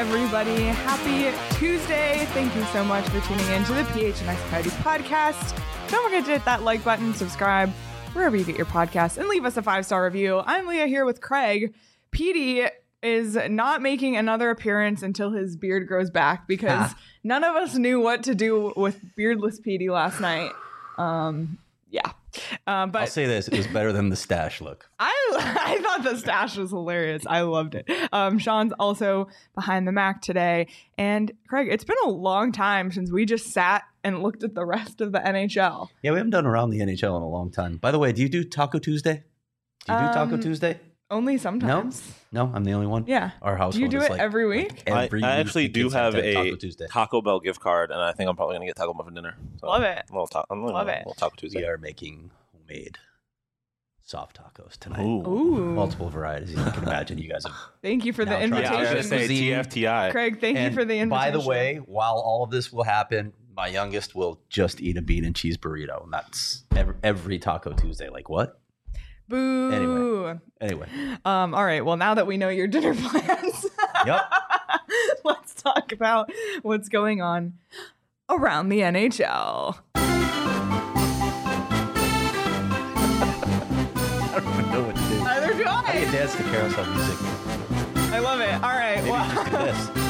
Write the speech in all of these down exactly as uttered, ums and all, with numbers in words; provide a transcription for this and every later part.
everybody. Happy Tuesday. Thank you so much for tuning in to the P H N X Coyotes podcast. Don't forget to hit that like button, subscribe, wherever you get your podcasts, and leave us a five-star review. I'm Leah here with Craig. Petey is not making another appearance until his beard grows back because ah. none of us knew what to do with beardless Petey last night. Um, yeah. Um, but I'll say this, it was better than the stash look. I I thought the stash was hilarious. I loved it. Um, Sean's also behind the Mac today. And Craig, it's been a long time since we just sat and looked at the rest of the N H L. Yeah, we haven't done around the N H L in a long time. By the way, do you do Taco Tuesday? Do you do um, Taco Tuesday? Only sometimes. No? No, I'm the only one? Yeah. Our household do you do is it like, every week? Like every I, I week actually do have a Taco, Tuesday. Taco Bell gift card, and I think I'm probably going to get Taco Bell for dinner. So Love it. A little ta- I'm Love a it. little Taco Tuesday. We are making homemade soft tacos tonight. Ooh. Ooh. Multiple varieties. You can imagine you guys have. Thank you for the Now trying to Yeah, I was invitation. going to say Cuisine. T F T I. Craig, thank And you for the invitation. by the way, while all of this will happen, my youngest will just eat a bean and cheese burrito, and that's every, every Taco Tuesday. Like what? Boo. Anyway. Anyway. Um, all right. Well, now that we know your dinner plans, Yep. let's talk about what's going on around the N H L. I don't even know what to do. Neither do How do you I. dance to carousel music? I love it. All right. Maybe Well, just do this.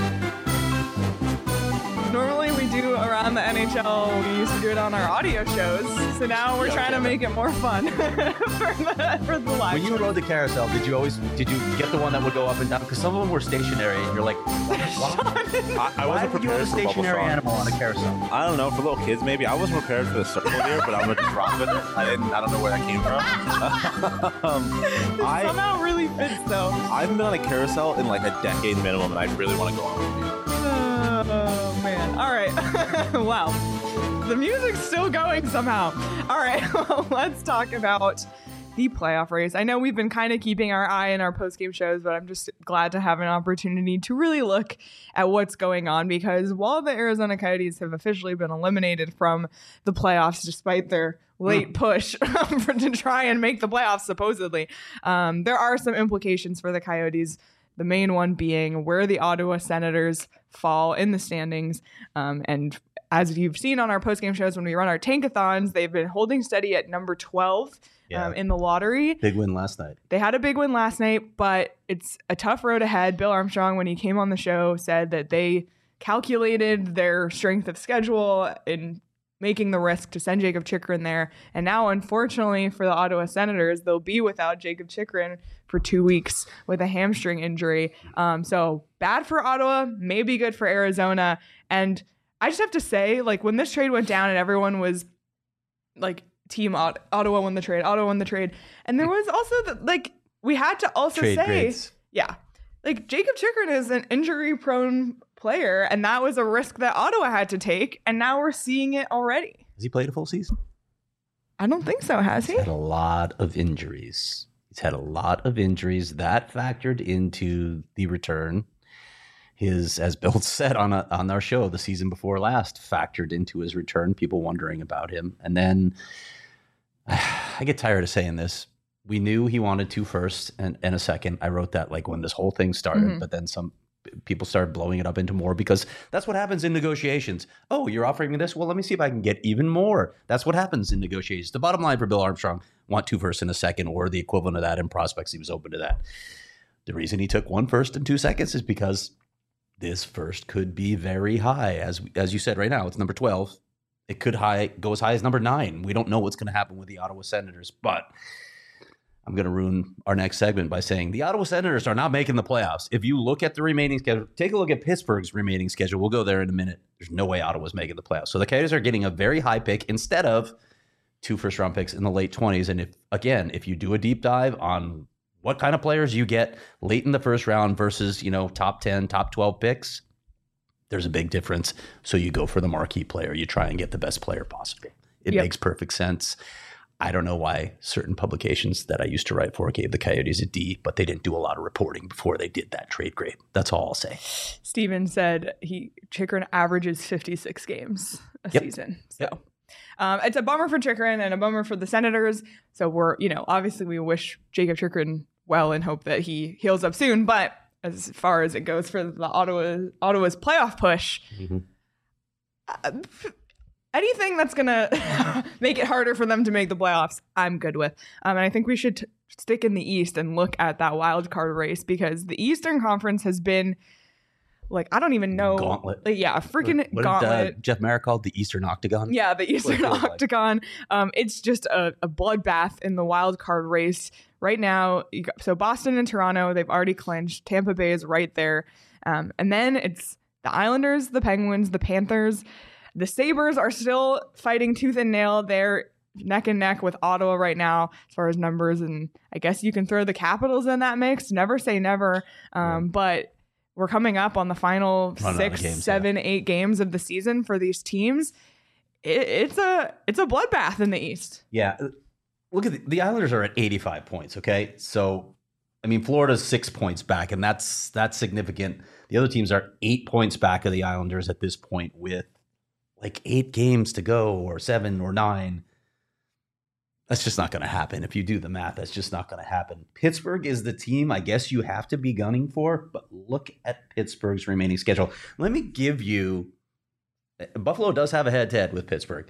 normally we do around the N H L. We used to do it on our audio shows. So now we're Yeah, trying to yeah. make it more fun for the for the live. When you shows. rode the carousel, did you always did you get the one that would go up and down? Because some of them were stationary, and you're like, why, I, I why wasn't would you have prepared a for Bubble stationary Song. animal on a carousel? I don't know, for little kids maybe. I wasn't prepared for the circle here, but I'm going to just rock with it. I didn't. I don't know where that came from. um, It I, somehow really fits though. I haven't been on a carousel in like a decade minimum, and I really want to go on one. Oh man. All right. Wow. The music's still going somehow. All right. Well, let's talk about the playoff race. I know we've been kind of keeping our eye in our post-game shows, but I'm just glad to have an opportunity to really look at what's going on, because while the Arizona Coyotes have officially been eliminated from the playoffs despite their late push for, to try and make the playoffs supposedly, um, there are some implications for the Coyotes. The main one being where the Ottawa Senators fall in the standings. Um, and as you've seen on our postgame shows when we run our tankathons, they've been holding steady at number twelve Yeah. um, in the lottery. Big win last night. They had a big win last night, but it's a tough road ahead. Bill Armstrong, when he came on the show, said that they calculated their strength of schedule in making the risk to send Jacob Chychrun there. And now, unfortunately, for the Ottawa Senators, they'll be without Jacob Chychrun for two weeks with a hamstring injury. Um, so bad for Ottawa, maybe good for Arizona. And I just have to say, like, when this trade went down and everyone was like, Team Ot- Ottawa won the trade, Ottawa won the trade. And there was also, the, like, we had to also Trade say, grades. yeah, like, Jacob Chychrun is an injury-prone player, and that was a risk that Ottawa had to take, and now we're seeing it already. Has he played a full season? I don't think so, has he? He's had a lot of injuries. He's had a lot of injuries that factored into the return. His, as Bill said on a, on our show the season before last, factored into his return. People wondering about him, and then I get tired of saying this. We knew he wanted two firsts and, and a second. I wrote that like when this whole thing started, Mm-hmm. but then some people started blowing it up into more because that's what happens in negotiations. Oh, you're offering me this? Well, let me see if I can get even more. That's what happens in negotiations. The bottom line for Bill Armstrong, want two firsts and a second, or the equivalent of that in prospects. He was open to that. The reason he took one first and two seconds is because this first could be very high. As as you said right now, it's number twelve. It could high go as high as number nine. We don't know what's going to happen with the Ottawa Senators, but I'm going to ruin our next segment by saying the Ottawa Senators are not making the playoffs. If you look at the remaining schedule, take a look at Pittsburgh's remaining schedule. We'll go there in a minute. There's no way Ottawa's making the playoffs. So the Coyotes are getting a very high pick instead of two first round picks in the late twenties. And if, again, if you do a deep dive on what kind of players you get late in the first round versus, you know, top ten, top twelve picks, there's a big difference. So you go for the marquee player. You try and get the best player possible. It Yep. makes perfect sense. I don't know why certain publications that I used to write for gave the Coyotes a D, but they didn't do a lot of reporting before they did that trade grade. That's all I'll say. Steven said he Chychrun averages fifty-six games a Yep. season. So Yep. um, it's a bummer for Chychrun and a bummer for the Senators. So we're, you know, obviously we wish Jacob Chychrun well and hope that he heals up soon. But as far as it goes for the Ottawa Ottawa's playoff push. Mm-hmm. Uh, anything that's gonna make it harder for them to make the playoffs, I'm good with. Um, and I think we should t- stick in the East and look at that wild card race, because the Eastern Conference has been like, I don't even know. Gauntlet. Like, yeah, a freaking what, what gauntlet. Did, uh, Jeff Merrick called the Eastern Octagon. Yeah, the Eastern What it feels like. Octagon. Um, it's just a, a bloodbath in the wild card race right now. You got, so Boston and Toronto, they've already clinched. Tampa Bay is right there. Um, and then it's the Islanders, the Penguins, the Panthers. The Sabres are still fighting tooth and nail. They're neck and neck with Ottawa right now as far as numbers. And I guess you can throw the Capitals in that mix. Never say never. Um, but we're coming up on the final Running out of six, games, seven, yeah. eight games of the season for these teams. It, it's a it's a bloodbath in the East. Yeah. Look at the, the Islanders are at eighty-five points. Okay. So, I mean, Florida's six points back, and that's that's significant. The other teams are eight points back of the Islanders at this point with like eight games to go, or seven or nine. That's just not going to happen. If you do the math, that's just not going to happen. Pittsburgh is the team I guess you have to be gunning for, but look at Pittsburgh's remaining schedule. Let me give you, Buffalo does have a head-to-head with Pittsburgh,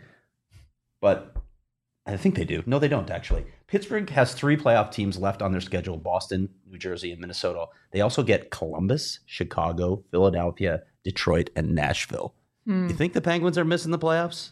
but I think they do. No, they don't, actually. Pittsburgh has three playoff teams left on their schedule: Boston, New Jersey, and Minnesota. They also get Columbus, Chicago, Philadelphia, Detroit, and Nashville. Hmm. You think the Penguins are missing the playoffs?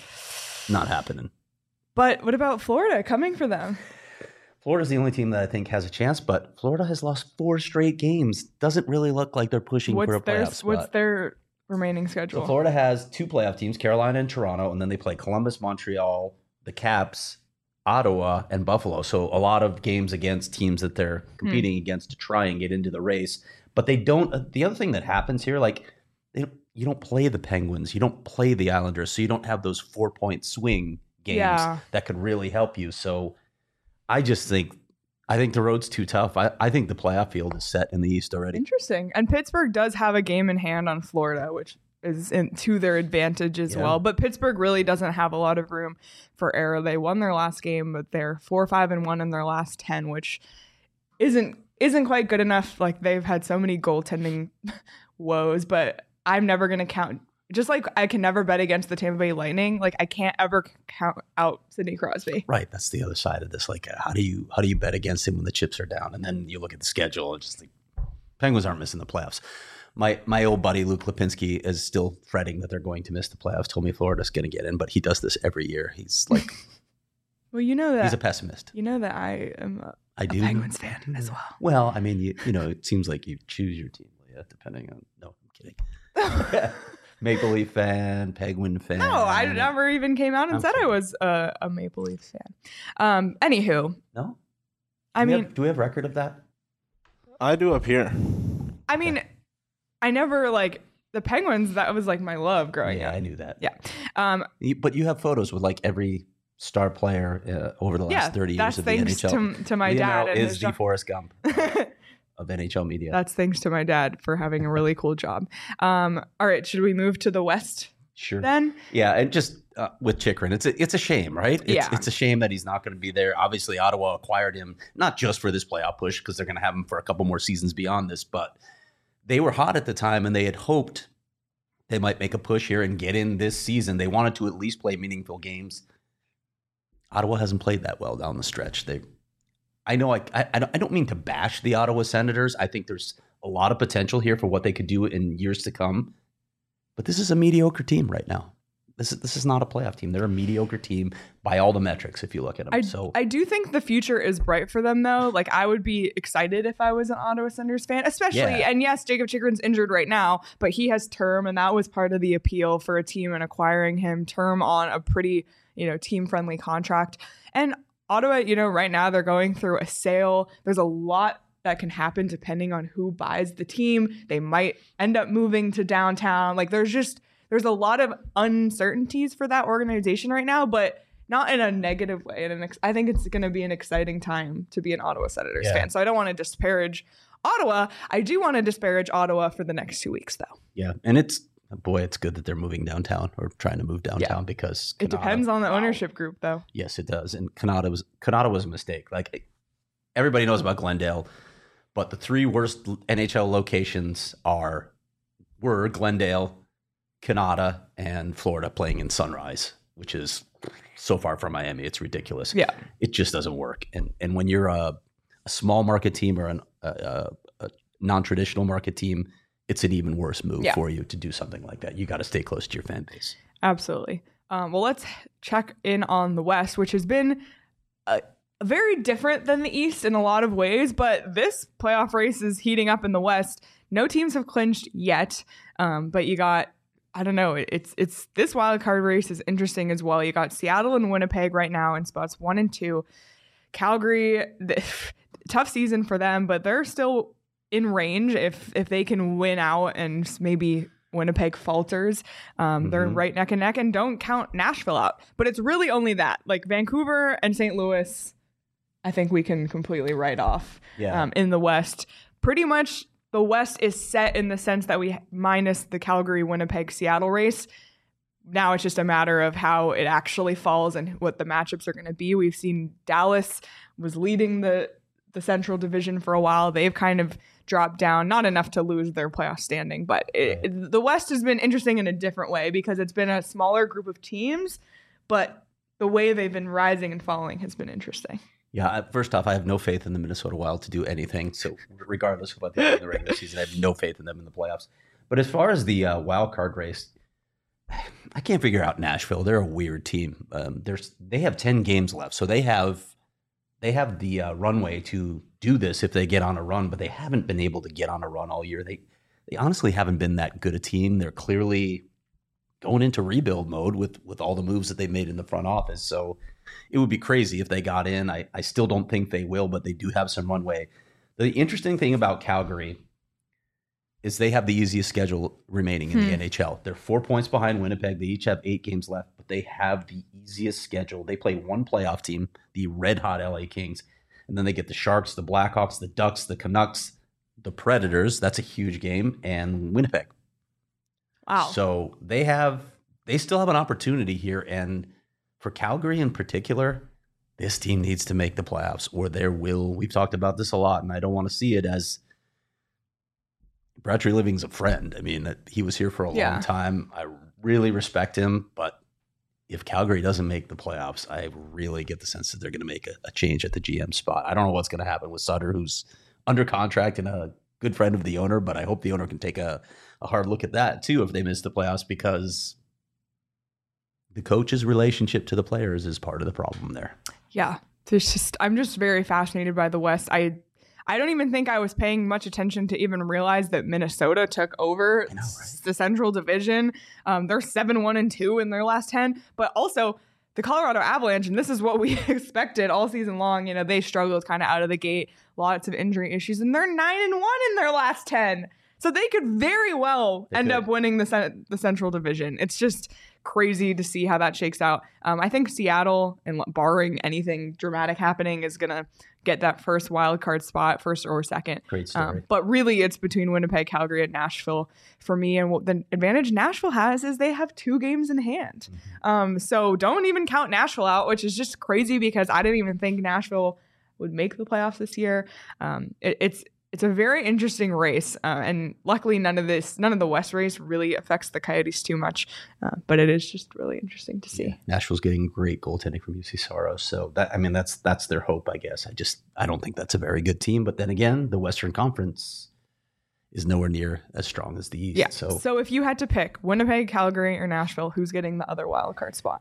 Not happening. But what about Florida coming for them? Florida's the only team that I think has a chance, but Florida has lost four straight games. Doesn't really look like they're pushing What's for a their playoff spot. What's their remaining schedule? So Florida has two playoff teams, Carolina and Toronto, and then they play Columbus, Montreal, the Caps, Ottawa, and Buffalo. So a lot of games against teams that they're competing hmm. against to try and get into the race. But they don't. Uh, the other thing that happens here, like they, you don't play the Penguins, you don't play the Islanders, so you don't have those four point swing games yeah. that could really help you. So I just think I think the road's too tough. I, I think the playoff field is set in the East already. Interesting. And Pittsburgh does have a game in hand on Florida, which is in, to their advantage as yeah. well. But Pittsburgh really doesn't have a lot of room for error. They won their last game, but they're four, five, and one in their last ten, which isn't isn't quite good enough. Like, they've had so many goaltending woes, but I'm never going to count. Just like I can never bet against the Tampa Bay Lightning, like I can't ever count out Sidney Crosby. Right, that's the other side of this. Like, how do you how do you bet against him when the chips are down? And then you look at the schedule and just like, Penguins aren't missing the playoffs. My my old buddy Luke Lipinski is still fretting that they're going to miss the playoffs. Told me Florida's going to get in, but he does this every year. He's like, well, you know that he's a pessimist. You know that I am a, I a do. Penguins fan as well. Well, I mean, you you know, it seems like you choose your team, yeah, depending on. No, I'm kidding. Maple Leaf fan, Penguin fan. No, I never even came out and I'm said kidding. I was a, a Maple Leaf fan. Um, anywho, no, I do mean, have, do we have record of that? I do up here. I mean, I never like the Penguins. That was like my love growing yeah, up. I knew that. Yeah. Um, you, but you have photos with like every star player uh, over the last yeah, thirty years that's of the N H L. thanks to, to my Leo dad. And is his the job. Forrest Gump of N H L media. That's thanks to my dad for having a really cool job. Um, all right, should we move to the West Sure. then? Yeah, and just uh, with Chychrun, it's a, it's a shame, right? It's, Yeah. It's a shame that he's not going to be there. Obviously, Ottawa acquired him not just for this playoff push because they're going to have him for a couple more seasons beyond this, but they were hot at the time and they had hoped they might make a push here and get in this season. They wanted to at least play meaningful games. Ottawa hasn't played that well down the stretch. They, I know I, I, I don't- I don't mean to bash the Ottawa Senators. I think there's a lot of potential here for what they could do in years to come. But this is a mediocre team right now. This is this is not a playoff team. They're a mediocre team by all the metrics if you look at them. I, so I do think the future is bright for them, though. Like, I would be excited if I was an Ottawa Senators fan, especially, Yeah. and yes, Jacob Chychrun's injured right now, but he has term, and that was part of the appeal for a team and acquiring him, term on a pretty, you know, team-friendly contract. And Ottawa, you know, right now they're going through a sale. There's a lot that can happen depending on who buys the team. They might end up moving to downtown. Like, there's just, there's a lot of uncertainties for that organization right now, but not in a negative way. And an ex- I think it's going to be an exciting time to be an Ottawa Senators Yeah. fan. So I don't want to disparage Ottawa. I do want to disparage Ottawa for the next two weeks, though. yeah, and it's boy, it's good that they're moving downtown or trying to move downtown because It Kanata- depends on the wow. ownership group, though. Yes, it does. And Kanata was Kanata was a mistake. Like everybody knows about Glendale, But the three worst N H L locations are were Glendale, Canada, and Florida playing in Sunrise, which is so far from Miami. It's ridiculous. Yeah. It just doesn't work. And and when you're a, a small market team or an, a, a, a non-traditional market team, it's an even worse move Yeah. for you to do something like that. You got to stay close to your fan base. Absolutely. Um, well, let's check in on the West, which has been uh, very different than the East in a lot of ways, but this playoff race is heating up in the West. No teams have clinched yet, um, but you got, I don't know, it's it's this wild card race is interesting as well. You got Seattle and Winnipeg right now in spots one and two. Calgary, the, tough season for them, but they're still in range if if they can win out and maybe Winnipeg falters. Um, mm-hmm. They're right neck and neck, and don't count Nashville out. But it's really only that. Like Vancouver and Saint Louis, I think we can completely write off yeah. um, in the West. Pretty much the West is set in the sense that we minus the Calgary, Winnipeg, Seattle race. Now it's just a matter of how it actually falls and what the matchups are going to be. We've seen Dallas was leading the the Central Division for a while. They've kind of dropped down, not enough to lose their playoff standing, but it, it, the West has been interesting in a different way because it's been a smaller group of teams, but the way they've been rising and falling has been interesting. Yeah, first off, I have no faith in the Minnesota Wild to do anything. So regardless of what they do in the regular season, I have no faith in them in the playoffs. But as far as the uh, wild card race, I can't figure out Nashville. They're a weird team. Um, there's they have ten games left, so they have they have the uh, runway to do this if they get on a run. But they haven't been able to get on a run all year. They they honestly haven't been that good a team. They're clearly going into rebuild mode with with all the moves that they made in the front office. So it would be crazy if they got in. I, I still don't think they will, but they do have some runway. The interesting thing about Calgary is they have the easiest schedule remaining in hmm. the N H L. They're four points behind Winnipeg. They each have eight games left, but they have the easiest schedule. They play one playoff team, the red-hot L A Kings, and then they get the Sharks, the Blackhawks, the Ducks, the Canucks, the Predators. That's a huge game, and Winnipeg. Wow. So they have, they still have an opportunity here, and for Calgary in particular, this team needs to make the playoffs or there will, we've talked about this a lot, and I don't want to see it as Brad Treliving's a friend. I mean, he was here for a yeah. long time. I really respect him, but if Calgary doesn't make the playoffs, I really get the sense that they're going to make a, a change at the G M spot. I don't know what's going to happen with Sutter, who's under contract and a good friend of the owner, but I hope the owner can take a, a hard look at that too if they miss the playoffs, because the coach's relationship to the players is part of the problem there. Yeah. There's just, I'm just very fascinated by the West. I I don't even think I was paying much attention to even realize that Minnesota took over know, right? the Central Division. Um, they're seven one and two in their last ten, but also the Colorado Avalanche, and this is what we expected all season long. You know, they struggled kind of out of the gate, lots of injury issues, and they're nine and one in their last ten. So they could very well They end could. up winning the cen- the Central Division. It's just crazy to see how that shakes out. Um, I think Seattle, and barring anything dramatic happening, is going to get that first wild card spot, first or second. Great story. Um, but really, it's between Winnipeg, Calgary, and Nashville for me. And what the advantage Nashville has is they have two games in hand. Mm-hmm. Um, so don't even count Nashville out, which is just crazy because I didn't even think Nashville would make the playoffs this year. Um, it, it's It's a very interesting race, uh, and luckily none of this, none of the West race really affects the Coyotes too much, uh, but it is just really interesting to see. Yeah. Nashville's getting great goaltending from U C Soros, so that I mean that's that's their hope, I guess. I just I don't think that's a very good team, but then again, the Western Conference is nowhere near as strong as the East. Yeah. So, so if you had to pick Winnipeg, Calgary, or Nashville, who's getting the other wild card spot?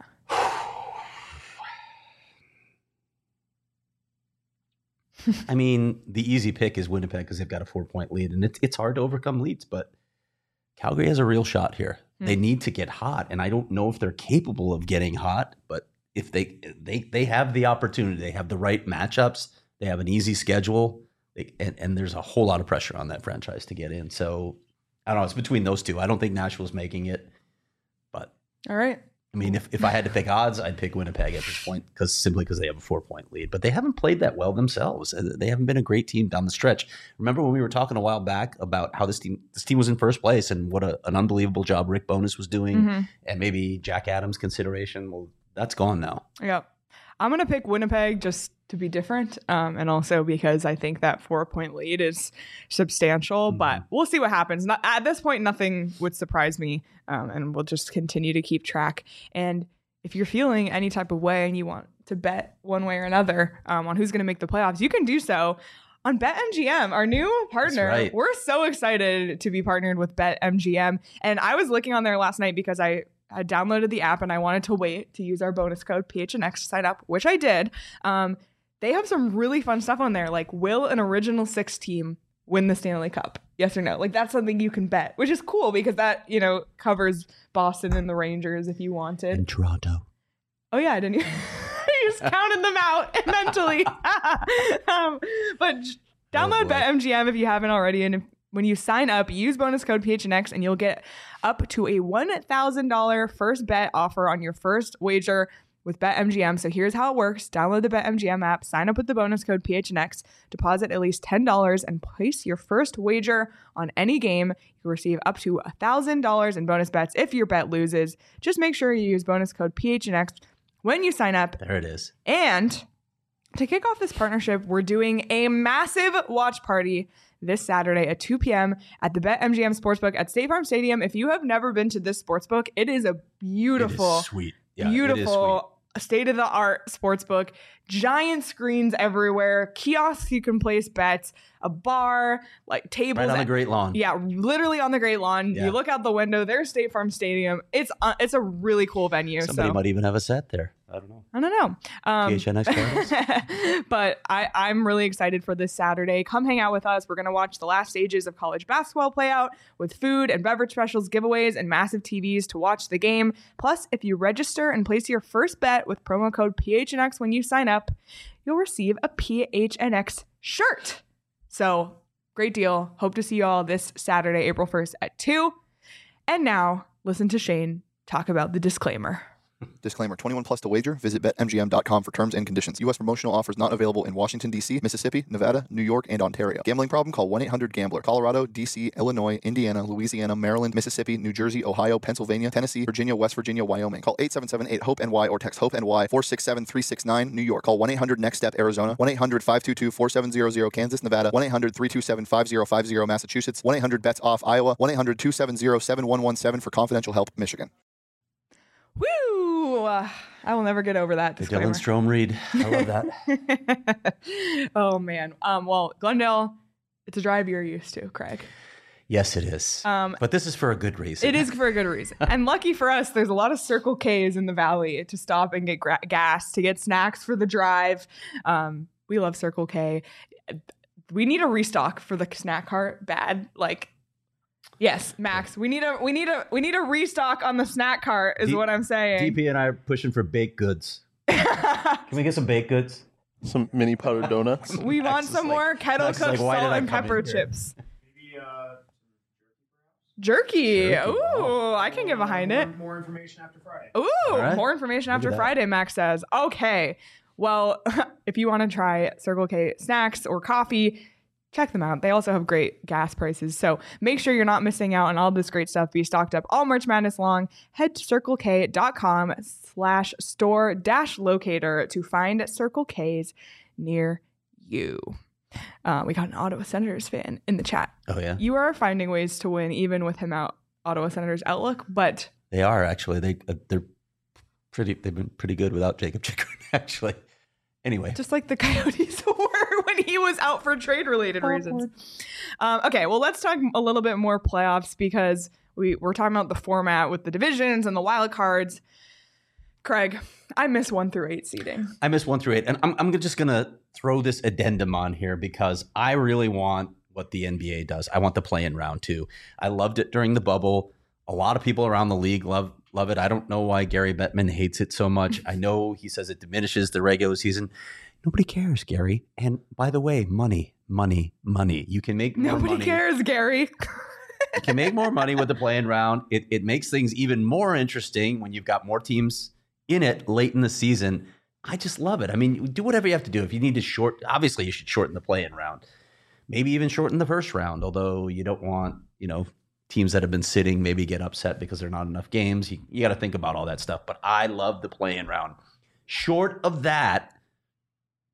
I mean, the easy pick is Winnipeg because they've got a four-point lead, and it's it's hard to overcome leads. But Calgary has a real shot here. Mm. They need to get hot, and I don't know if they're capable of getting hot. But if they they they have the opportunity, they have the right matchups, they have an easy schedule, they, and and there's a whole lot of pressure on that franchise to get in. So I don't know. It's between those two. I don't think Nashville's making it, but all right. I mean, if, if I had to pick odds, I'd pick Winnipeg at this point, because simply because they have a four-point lead. But they haven't played that well themselves. They haven't been a great team down the stretch. Remember when we were talking a while back about how this team this team was in first place and what a, an unbelievable job Rick Bowness was doing, Mm-hmm. and maybe Jack Adams' consideration? Well, that's gone now. Yep. I'm going to pick Winnipeg just to be different. Um, and also because I think that four point lead is substantial, mm-hmm. but we'll see what happens. Not, at this point, nothing would surprise me. Um, and we'll just continue to keep track. And if you're feeling any type of way and you want to bet one way or another um, on who's going to make the playoffs, you can do so on BetMGM, our new partner. Right. We're so excited to be partnered with BetMGM. And I was looking on there last night because I I downloaded the app and I wanted to wait to use our bonus code P H N X to sign up, which I did. Um, they have some really fun stuff on there, like will an original six team win the Stanley Cup? Yes or no? Like that's something you can bet, which is cool because that, you know, covers Boston and the Rangers if you wanted. And Toronto. Oh yeah, didn't you? You just counted them out mentally. um, but download oh BetMGM if you haven't already, and if, when you sign up, use bonus code P H N X and you'll get up to a one thousand dollars first bet offer on your first wager with BetMGM. So here's how it works. Download the BetMGM app, sign up with the bonus code P H N X, deposit at least ten dollars, and place your first wager on any game. You'll receive up to one thousand dollars in bonus bets if your bet loses. Just make sure you use bonus code P H N X when you sign up. There it is. And to kick off this partnership, we're doing a massive watch party this Saturday at two p.m. at the BetMGM Sportsbook at State Farm Stadium. If you have never been to this sportsbook, it is a beautiful, it is sweet. Yeah, beautiful, state-of-the-art sportsbook. Giant screens everywhere, kiosks you can place bets, a bar, like tables. Right on at, the Great Lawn. Yeah, literally on the Great Lawn. Yeah. You look out the window, there's State Farm Stadium. It's uh, it's a really cool venue. Somebody so. might even have a set there. I don't know. I don't know. Um, P H N X but I, I'm really excited for this Saturday. Come hang out with us. We're going to watch the last stages of college basketball play out with food and beverage specials, giveaways, and massive T Vs to watch the game. Plus, if you register and place your first bet with promo code P H N X when you sign up, you'll receive a P H N X shirt. So, great deal. Hope to see you all this Saturday, April first at two. And now, listen to Shane talk about the disclaimer. Disclaimer, twenty-one plus to wager. Visit Bet M G M dot com for terms and conditions. U S promotional offers not available in Washington, D C, Mississippi, Nevada, New York, and Ontario. Gambling problem? Call one eight hundred gambler. Colorado, D C, Illinois, Indiana, Louisiana, Maryland, Mississippi, New Jersey, Ohio, Pennsylvania, Tennessee, Virginia, West Virginia, Wyoming. Call eight seven seven eight hope N Y or text HOPE-NY four six seven three six nine. New York. Call one eight hundred next step Arizona. one eight hundred five two two four seven zero zero. Kansas, Nevada. one eight hundred three two seven five zero five zero. Massachusetts. one eight hundred bets off Iowa. one eight hundred two seven zero seven one one seven for confidential help, Michigan. Woo! Uh, I will never get over that The disclaimer. Dylan Strome read. I love that. Oh, man. Um, well, Glendale, it's a drive you're used to, Craig. Yes, it is. Um, but this is for a good reason. It is for a good reason. And lucky for us, there's a lot of Circle K's in the valley to stop and get gra- gas, to get snacks for the drive. Um, we love Circle K. We need a restock for the snack cart. Bad. Like, yes, Max, we need a we need a we need a restock on the snack cart is D- what I'm saying. D P and I are pushing for baked goods. Can we get some baked goods? Some mini powdered donuts. We want Max some is like- more kettle Max is cooked like, why did salt I and come pepper in here? chips. Maybe uh, Jerky. Jerky, Ooh, wow. I can get behind more, it. More information after Friday. Ooh, right. more information Look after at that. Friday, Max says. Okay. Well, if you want to try Circle K snacks or coffee, check them out. They also have great gas prices. So make sure you're not missing out on all this great stuff. Be stocked up all March Madness long. Head to circlek.com slash store dash locator to find Circle K's near you. Uh, we got an Ottawa Senators fan in the chat. Oh, yeah. You are finding ways to win even with him out, Ottawa Senators outlook, but They are, actually. They, uh, they're pretty, they've been pretty good without Jacob Chikrin, actually. Anyway. just like the Coyotes were when he was out for trade-related reasons. Um, okay, well, let's talk a little bit more playoffs because we, we're talking about the format with the divisions and the wild cards. Craig, I miss one through eight seeding. I miss one through eight. And I'm, I'm just going to throw this addendum on here because I really want what the N B A does. I want the play-in round too. I loved it during the bubble. A lot of people around the league love love it. I don't know why Gary Bettman hates it so much. I know he says it diminishes the regular season. Nobody cares, Gary. And by the way, money, money, money. You can make more Nobody money. cares, Gary. You can make more money with the play-in round. It, it makes things even more interesting when you've got more teams in it late in the season. I just love it. I mean, do whatever you have to do. If you need to short, obviously you should shorten the play-in round. Maybe even shorten the first round, although you don't want, you know, teams that have been sitting maybe get upset because there are not enough games. You, you got to think about all that stuff. But I love the play-in round. Short of that,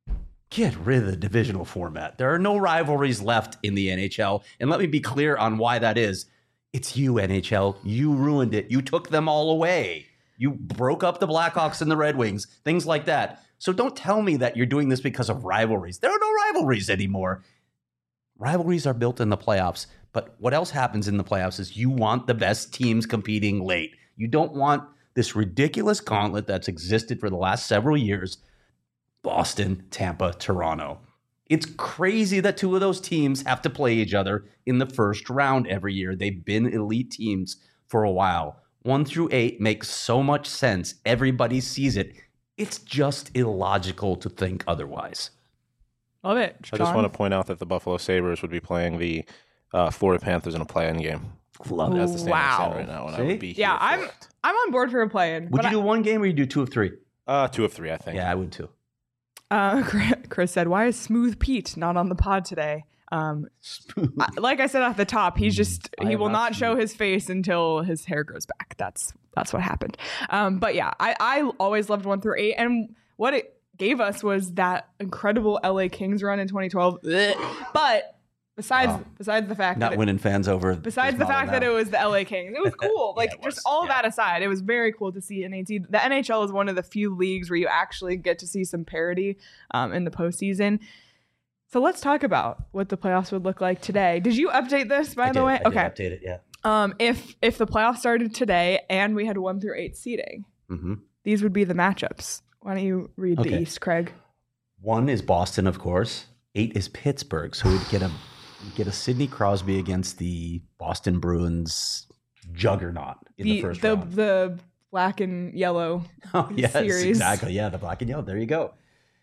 Get rid of the divisional format. There are no rivalries left in the N H L. And let me be clear on why that is. It's you, N H L. You ruined it. You took them all away. You broke up the Blackhawks and the Red Wings, things like that. So don't tell me that you're doing this because of rivalries. There are no rivalries anymore. Rivalries are built in the playoffs. But what else happens in the playoffs is you want the best teams competing late. You don't want this ridiculous gauntlet that's existed for the last several years. Boston, Tampa, Toronto. It's crazy that two of those teams have to play each other in the first round every year. They've been elite teams for a while. One through eight makes so much sense. Everybody sees it. It's just illogical to think otherwise. Love it. I just want to point out that the Buffalo Sabres would be playing the uh, Florida Panthers in a play-in game. Love it. That's the standing Wow. right now, and I See? would be Yeah, here for I'm it. I'm on board for a play-in. Would but you do one game or you do two of three? Uh, two of three, I think. Yeah, I would too. Uh, Chris said, "Why is Smooth Pete not on the pod today?" Um, I- like I said at the top, he's just I he am will not not show smooth. his face until his hair grows back. That's that's what happened. Um, but yeah, I I always loved one through eight, and what it gave us was that incredible L A Kings run in twenty twelve. Ugh. But besides Wow. besides the fact Not that it, winning fans over. besides the Bismillah fact that now. it was the L A Kings, it was cool. Like Yeah, it just was. all Yeah. that aside, it was very cool to see N H L. The N H L is one of the few leagues where you actually get to see some parity um, in the postseason. So let's talk about what the playoffs would look like today. Did you update this, by I the did, way? I did Okay. update it, yeah. Um, if if the playoffs started today and we had one through eight seeding, Mm-hmm. these would be the matchups. Why don't you read the Okay. East, Craig? One is Boston, of course. Eight is Pittsburgh. So we'd get a we'd get a Sidney Crosby against the Boston Bruins juggernaut in the, The first the, round. the black and yellow. Oh, yes, series. exactly. Yeah, the black and yellow. There you go.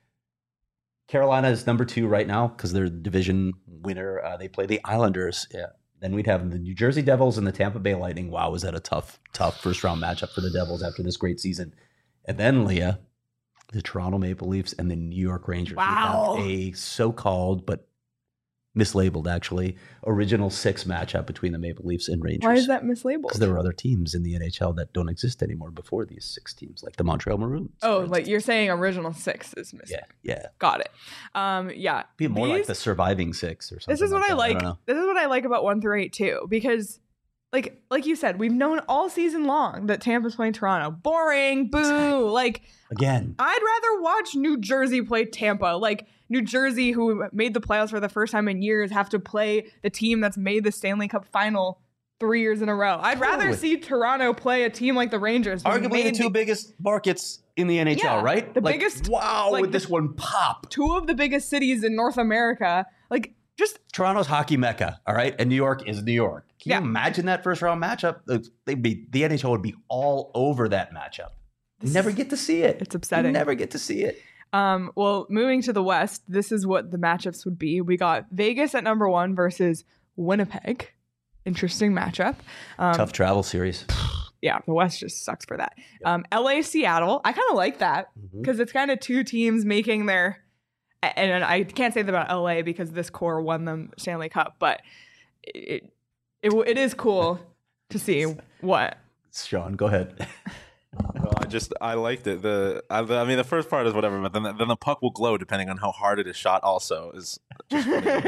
Carolina is number two right now because they're the division winner. Uh, they play the Islanders. Yeah. Then we'd have the New Jersey Devils and the Tampa Bay Lightning. Wow, was that a tough, tough first round matchup for the Devils after this great season? And then, Leah, the Toronto Maple Leafs and the New York Rangers. We Wow. have a so-called, but mislabeled actually, original six matchup between the Maple Leafs and Rangers. Why is that mislabeled? Because there were other teams in the N H L that don't exist anymore before these six teams, like the Montreal Maroons. Oh, for like instance. you're saying original six is missing. Yeah, yeah. Got it. Um, yeah. Be more like These- the surviving six or something. This is what like I that. like. don't know. This is what I like about one through eight too, because, like, like you said, we've known all season long that Tampa's playing Toronto. Boring, boo. Exactly. Like, Again, I'd rather watch New Jersey play Tampa. Like, New Jersey, who made the playoffs for the first time in years, have to play the team that's made the Stanley Cup final three years in a row. I'd rather Totally. see Toronto play a team like the Rangers. who arguably the made two biggest markets in the N H L, Yeah, right? the Like, biggest- Wow, like would the- this one pop? two of the biggest cities in North America. Like, just Toronto's hockey mecca, all right, and New York is New York. Can Yeah. you imagine that first round matchup? Uh, They'd be the N H L would be all over that matchup. You This never is- get to see it. it's upsetting. You never get to see it. Um, well, moving to the West, this is what the matchups would be. We got Vegas at number one versus Winnipeg. Interesting matchup. Um, Tough travel series. Yeah, the West just sucks for that. Um, L A, Seattle. I kind of like that Mhm. because it's kind of two teams making their. a- And I can't say that about L A because this core won them Stanley Cup, but it it, it is cool to see what. Sean, go ahead. Well, I just I liked it. The I, I mean the first part is whatever, but then the, then the puck will glow depending on how hard it is shot. Also, is just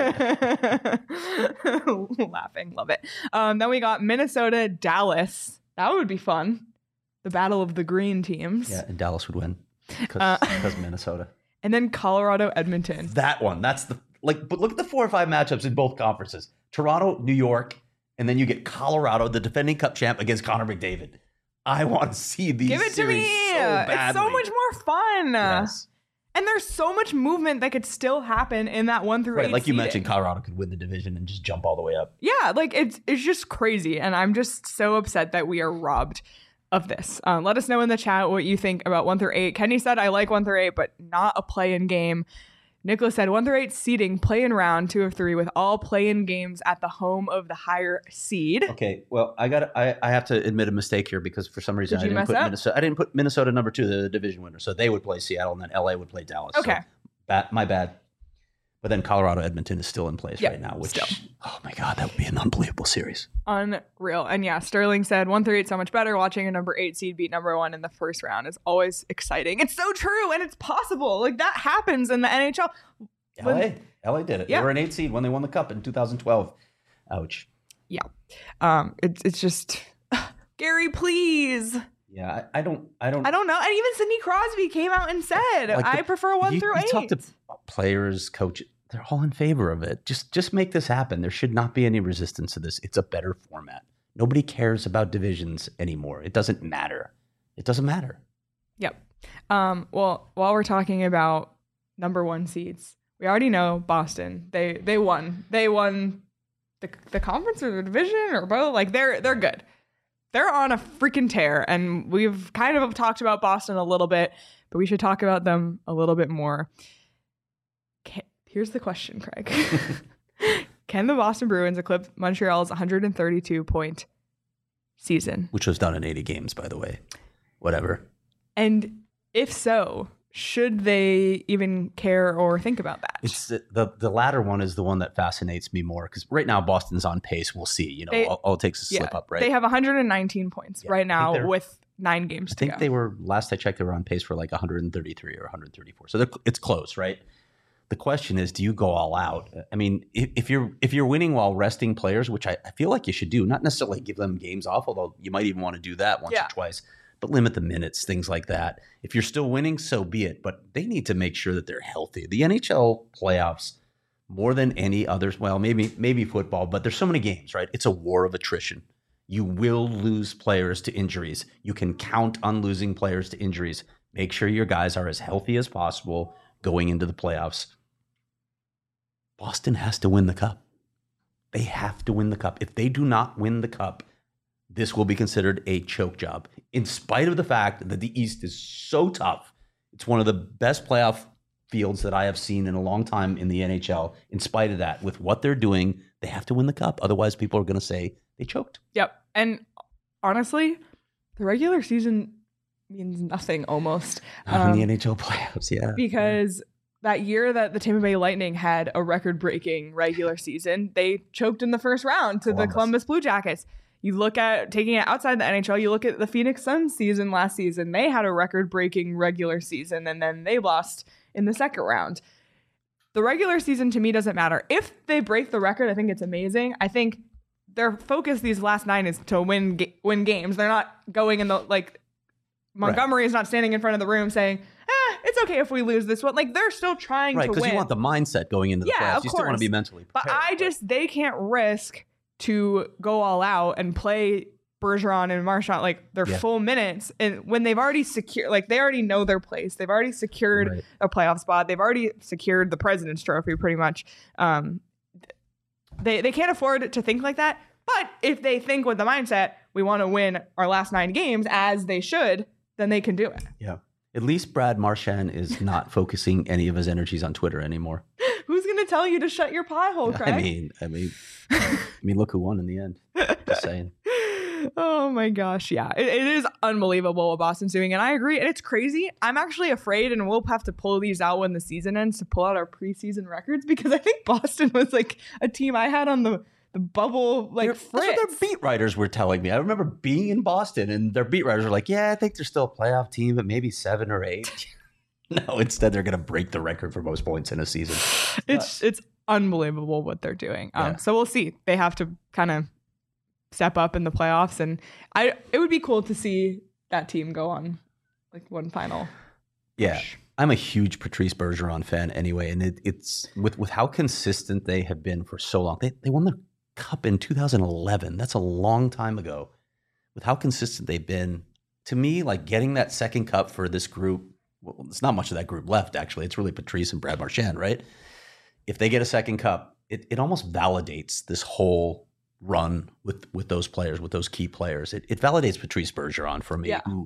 Laughing, love it. Um, then we got Minnesota, Dallas. That would be fun. The battle of the green teams. Yeah, and Dallas would win because Uh, Minnesota. And then Colorado, Edmonton. That one. That's the like. But look at the four or five matchups in both conferences: Toronto, New York, and then you get Colorado, the defending Cup champ, against Connor McDavid. I want to see these. Give it to series me. So badly. It's so much more fun. Yes. And there's so much movement that could still happen in that one through Right, eight like you seeding. mentioned, Colorado could win the division and just jump all the way up. Yeah, like it's it's just crazy, and I'm just so upset that we are robbed of this. Um, let us know in the chat what you think about one through eight. Kenny said I like one through eight, but not a play-in game. Nicholas said one through eight seeding, play-in round two of three, with all play-in games at the home of the higher seed. Okay, well, I got I, I have to admit a mistake here because for some reason Did I you didn't mess put up? Minnesota. I didn't put Minnesota number two, the division winner. So they would play Seattle, and then L A would play Dallas. So Okay. ba- my bad. But then Colorado Edmonton is still in place Yeah, right now, which, still. oh my God, that would be an unbelievable series. Unreal. And yeah, Sterling said one through eight so much better. Watching a number eight seed beat number one in the first round is always exciting. It's so true, and it's possible. Like that happens in the N H L. L A, L A did it. Yeah. They were an eight seed when they won the cup in two thousand twelve. Ouch. Yeah. Um, it's it's just Gary, please. Yeah, I, I don't, I don't, I don't know. And even Sidney Crosby came out and said, Like the- I prefer one you, through you eight. talk to players, coaches, they're all in favor of it. Just, just make this happen. There should not be any resistance to this. It's a better format. Nobody cares about divisions anymore. It doesn't matter. It doesn't matter. Yep. Um, well, while we're talking about number one seeds, we already know Boston. They they won. They won the the conference or the division or both. Like they're they're good. They're on a freaking tear, and we've kind of talked about Boston a little bit, but we should talk about them a little bit more. Can, here's the question, Craig. Can the Boston Bruins eclipse Montreal's one hundred thirty-two point season? Which was done in eighty games, by the way. Whatever. And if so, should they even care or think about that? It's the, the, the latter one is the one that fascinates me more because right now Boston's on pace. We'll see. You know, They- all, all it takes is a slip Yeah. up, right? They have one hundred nineteen points Yeah, I right think now they're- with nine games I to think go. they were, last I checked, they were on pace for like one hundred thirty-three or one hundred thirty-four. So they're, it's close, right? The question is, do you go all out? I mean, if, if you're if you're winning while resting players, which I, I feel like you should do, not necessarily give them games off, although you might even want to do that once Yeah. or twice, but limit the minutes, things like that. If you're still winning, so be it. But they need to make sure that they're healthy. The N H L playoffs, more than any others, well, maybe maybe football, but there's so many games, right? It's a war of attrition. You will lose players to injuries. You can count on losing players to injuries. Make sure your guys are as healthy as possible going into the playoffs. Boston has to win the cup. They have to win the cup. If they do not win the cup, this will be considered a choke job. In spite of the fact that the East is so tough, it's one of the best playoff fields that I have seen in a long time in the N H L. In spite of that, with what they're doing, they have to win the cup. Otherwise, people are going to say they choked. Yep. And honestly, the regular season means nothing almost. Not in the Um, N H L playoffs, yeah. because that year that the Tampa Bay Lightning had a record-breaking regular season, they choked in the first round to the Columbus. Columbus Blue Jackets. You look at taking it outside the N H L, you look at the Phoenix Suns season last season. They had a record-breaking regular season, and then they lost in the second round. The regular season to me doesn't matter. If they break the record, I think it's amazing. I think their focus these last nine is to win ga- win games. They're not going in the like Montgomery is not standing in front of the room saying, "Eh, it's okay if we lose this one." Like they're still trying Right, to because win. you want the mindset going into the Yeah, playoffs. of You still want course. to be mentally But prepared. I just they can't risk to go all out and play Bergeron and Marchand like their Yeah. full minutes, and when they've already secured, like they already know their place, they've already secured Right. a playoff spot, they've already secured the President's Trophy, pretty much. Um, they they can't afford to think like that. But if they think with the mindset we want to win our last nine games as they should, then they can do it. Yeah. At least Brad Marchand is not focusing any of his energies on Twitter anymore. Who's gonna tell you to shut your pie hole, Craig? I mean, I mean, I mean, look who won in the end. Just saying. Oh my gosh, yeah. It, it is unbelievable what Boston's doing, and I agree. And it's crazy. I'm actually afraid, and we'll have to pull these out when the season ends to pull out our preseason records because I think Boston was like a team I had on the, the bubble, like They're- That's what Fritz. their beat writers were telling me. I remember being in Boston, and their beat writers were like, "Yeah, I think they're still a playoff team, but maybe seven or eight." No, instead they're going to break the record for most points in a season. It's it's unbelievable what they're doing. Um, Yeah. So we'll see. They have to kind of step up in the playoffs, and I it would be cool to see that team go on like one final. Yeah. push. I'm a huge Patrice Bergeron fan anyway, and it, it's with with how consistent they have been for so long. They they won the cup in two thousand eleven. That's a long time ago. With how consistent they've been, to me, like getting that second cup for this group. Well, there's not much of that group left, actually. It's really Patrice and Brad Marchand, right? If they get a second cup, it, it almost validates this whole run with with those players, with those key players. It, it validates Patrice Bergeron for me, Yeah. who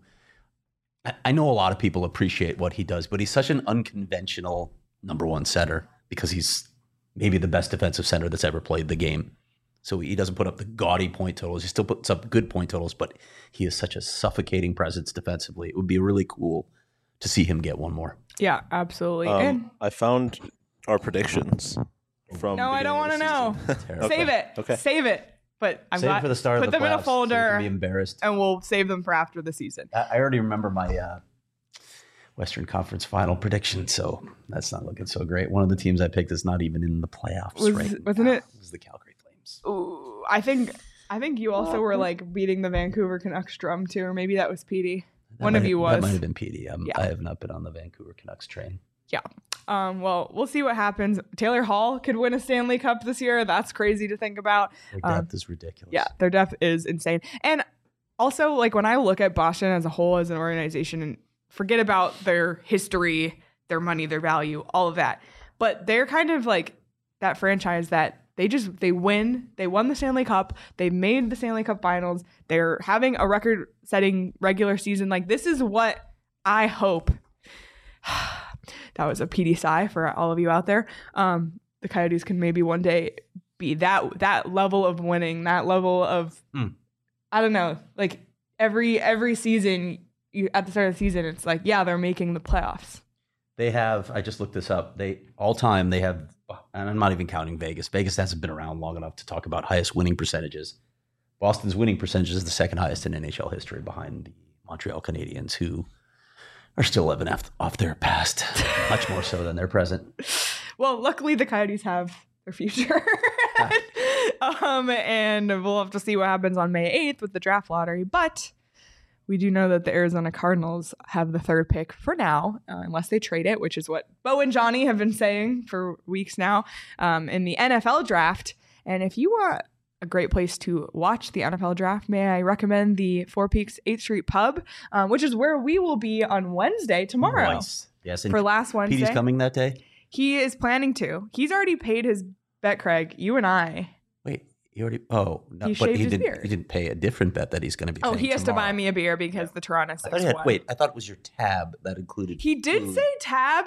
I- I know a lot of people appreciate what he does, but he's such an unconventional number one center because he's maybe the best defensive center that's ever played the game. So he doesn't put up the gaudy point totals. He still puts up good point totals, but he is such a suffocating presence defensively. It would be really cool to see him get one more. Yeah, absolutely. Um, and I found Our predictions from No, I don't want to know. Terrible. Save it. Okay. Save it. But I'm Save glad it for the start put of the them in a playoffs, so we folder can be embarrassed. and we'll save them for after the season. I I already remember my uh, Western Conference final prediction, so that's not looking so great. One of the teams I picked is not even in the playoffs Was- right wasn't now. it- was the Calgary Flames. Ooh, I think I think you also were like beating the Vancouver Canucks drum too, or maybe that was Petey. That One might of have- you That was. might have been P D. Um, Yeah. I have not been on the Vancouver Canucks train. Yeah. Um, well, we'll see what happens. Taylor Hall could win a Stanley Cup this year. That's crazy to think about. Their Um, depth is ridiculous. Yeah, their depth is insane. And also, like when I look at Boston as a whole, as an organization, and forget about their history, their money, their value, all of that, but they're kind of like that franchise that they just they win. They won the Stanley Cup. They made the Stanley Cup Finals. They're having a record-setting regular season. Like this is what I hope. That was a P D sigh for all of you out there. Um, the Coyotes can maybe one day be that that level of winning, that level of Mm. I don't know, like every every season you at the start of the season, it's like, yeah, they're making the playoffs. They have, I just looked this up. They all time they have, and I'm not even counting Vegas. Vegas hasn't been around long enough to talk about highest winning percentages. Boston's winning percentage is the second highest in N H L history behind the Montreal Canadiens, who are still living off, off their past, much more so than their present. Well, luckily the Coyotes have their future. um, and we'll have to see what happens on May eighth with the draft lottery. But we do know that the Arizona Cardinals have the third pick for now, uh, unless they trade it, which is what Bo and Johnny have been saying for weeks now um, in the N F L draft. And if you want a great place to watch the N F L draft, may I recommend the Four Peaks eighth Street Pub, um, which is where we will be on Wednesday tomorrow Nice. Yes, and for last Wednesday. Petey's coming that day. He is planning to. He's already paid his bet, Craig. You and I. Wait, he already? Oh, no, He but shaved he his didn't. beard. He didn't pay a different bet that he's going to be. Oh, paying he has tomorrow. to buy me a beer because the Toronto I Six thought he had, won. wait, I thought it was your tab that included. He did food. say tab.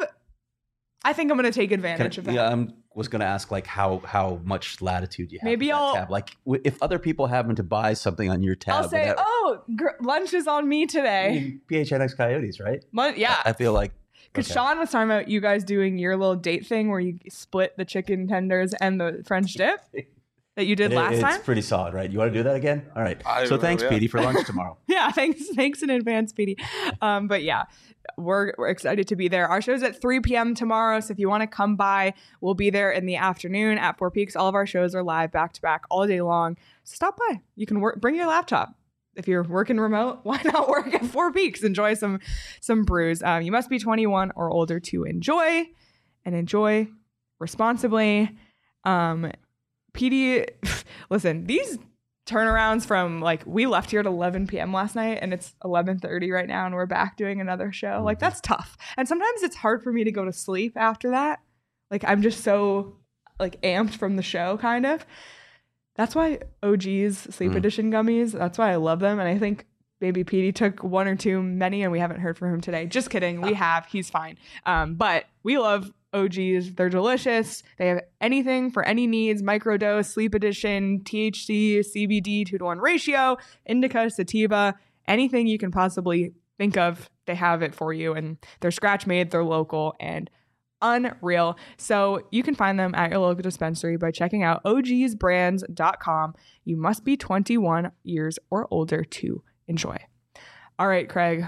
I think I'm going to take Can advantage I- of that. yeah, I was going to ask like how how much latitude you have. Maybe with that I'll- tab. Like w- if other people happen to buy something on your tab. I'll say, without- oh, gr- lunch is on me I today. mean, P H N X Coyotes, right? Lun- yeah. I, I feel like Because okay. Sean was talking about you guys doing your little date thing where you split the chicken tenders and the French dip that you did It- last it's time. pretty solid, right? You want to do that again? All right. I so will, thanks, yeah. Petey, for lunch tomorrow. Yeah, thanks, thanks in advance, Petey. Um, but yeah, we're we're excited to be there. Our show's at three p.m. tomorrow, so if you want to come by, we'll be there in the afternoon at Four Peaks. All of our shows are live back to back all day long. So stop by. You can work. Bring your laptop. If you're working remote, why not work at Four Peaks? Enjoy some some brews. Um, you must be twenty-one or older to enjoy, and enjoy responsibly. Um, P D, listen, these turnarounds from like we left here at eleven p.m. last night and it's eleven thirty right now and we're back doing another show. Like that's tough. And sometimes it's hard for me to go to sleep after that. Like I'm just so like amped from the show kind of. That's why O G's Sleep Mm. Edition gummies, that's why I love them. And I think maybe Petey took one or two many and we haven't heard from him today. Just kidding. We have. He's fine. Um, but we love O G's. They're delicious. They have anything for any needs. Microdose, Sleep Edition, T H C, C B D, two to one ratio, indica, sativa, anything you can possibly think of, they have it for you. And they're scratch made, they're local, and unreal. So you can find them at your local dispensary by checking out O Gs brands dot com. You must be twenty-one years or older to enjoy. All right, Craig,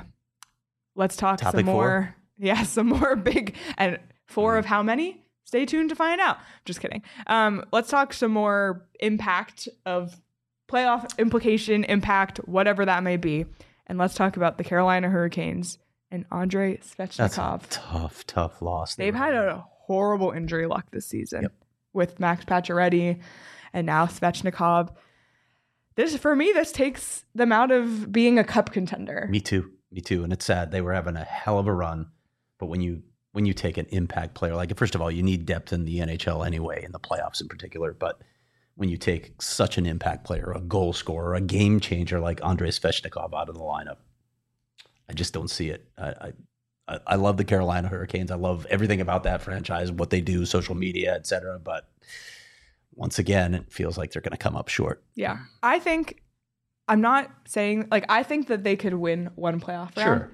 let's talk Topic some more. four? Yeah, some more big and four of how many? Stay tuned to find out. Just kidding. Um, let's talk some more impact of playoff implication, impact, whatever that may be. And let's talk about the Carolina Hurricanes and Andrei That's Svechnikov. a tough, tough loss. They've had a horrible injury luck this season Yep. with Max Pacioretty and now Svechnikov. This, for me, this takes them out of being a cup contender. Me too. Me too. And it's sad. They were having a hell of a run. But when you when you take an impact player, like first of all, you need depth in the N H L anyway, in the playoffs in particular. But when you take such an impact player, a goal scorer, a game changer like Andrei Svechnikov out of the lineup, I just don't see it. I, I I love the Carolina Hurricanes. I love everything about that franchise, what they do, social media, et cetera. But once again, it feels like they're going to come up short. Yeah. I think, I'm not saying, like, I think that they could win one playoff round. Sure.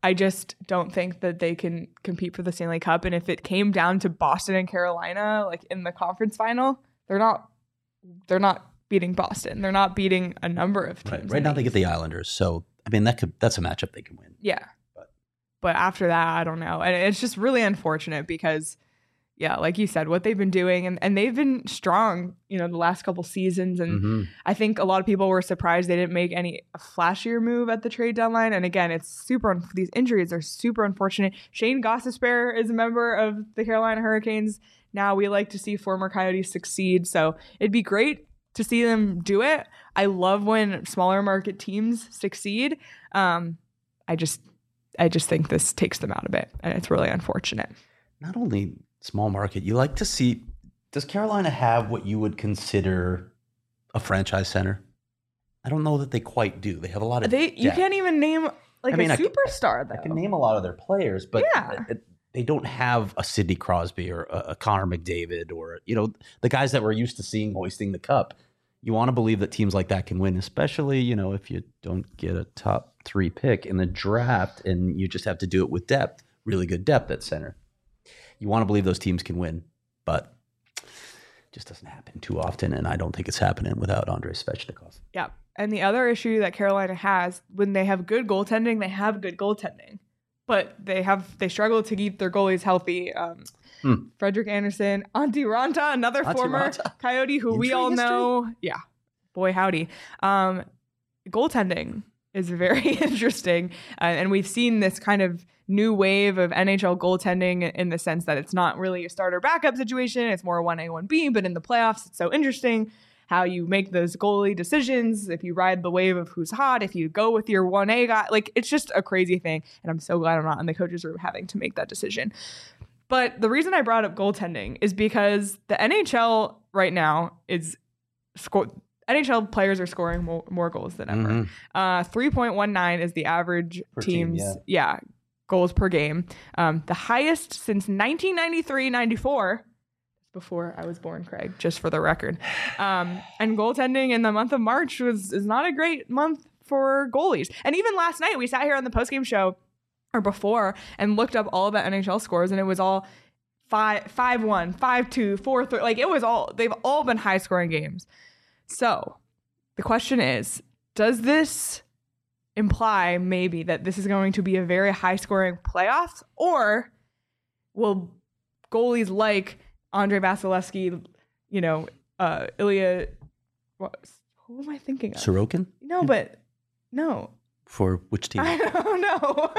I just don't think that they can compete for the Stanley Cup. And if it came down to Boston and Carolina, like in the conference final, they're not they're not beating Boston. They're not beating a number of teams. Right, right now they get the Islanders. So I mean that could that's a matchup they can win. Yeah. But, but after that, I don't know. And it's just really unfortunate because yeah, like you said, what they've been doing and, and they've been strong, you know, the last couple seasons. And mm-hmm. I think a lot of people were surprised they didn't make any flashier move at the trade deadline. And again, it's super, these injuries are super unfortunate. Shane Gostisbehere is a member of the Carolina Hurricanes. Now we like to see former Coyotes succeed. So it'd be great to see them do it. I love when smaller market teams succeed. Um, I just, I just think this takes them out a bit and it's really unfortunate. Not only small market, you like to see, does Carolina have what you would consider a franchise center? I don't know that they quite do. They have a lot of they. depth. You can't even name like I mean, a I can- superstar though. I can name a lot of their players, but Yeah. it- they don't have a Sidney Crosby or a, a Connor McDavid or, you know, the guys that we're used to seeing hoisting the cup. You want to believe that teams like that can win, especially, you know, if you don't get a top three pick in the draft and you just have to do it with depth, really good depth at center. You want to believe those teams can win, but it just doesn't happen too often, and I don't think it's happening without Andrei Svechnikov. Yeah. And the other issue that Carolina has, when they have good goaltending, they have good goaltending. But they have they struggle to keep their goalies healthy. Um, Hmm. Frederick Anderson, Antti Ranta, another Antti former Ranta. Coyote who we Injury all history? know. Yeah. Boy, howdy. Um, goaltending is very interesting. Uh, and we've seen this kind of new wave of N H L goaltending in the sense that it's not really a starter backup situation. It's more one A, one B. But in the playoffs, it's so interesting how you make those goalie decisions, if you ride the wave of who's hot, if you go with your one A guy. Like, it's just a crazy thing. And I'm so glad I'm not in the coaches room having to make that decision. But the reason I brought up goaltending is because the N H L right now is score. N H L players are scoring more, more goals than ever. Mhm. Uh, three point one nine is the average Per team, team's yeah. goals per game. Um, the highest since nineteen ninety-three ninety-four. Before I was born, Craig, just for the record. Um, and goaltending in the month of March was is not a great month for goalies. And even last night, we sat here on the postgame show or before and looked up all of the N H L scores, and it was all five, five, one, five, two, four, three. Like it was all, they've all been high scoring games. So the question is, does this imply maybe that this is going to be a very high scoring playoffs, or will goalies like Andrei Vasilevsky, you know, uh, Ilya, what, who am I thinking of? Sorokin? No, but no. For which team? I don't know.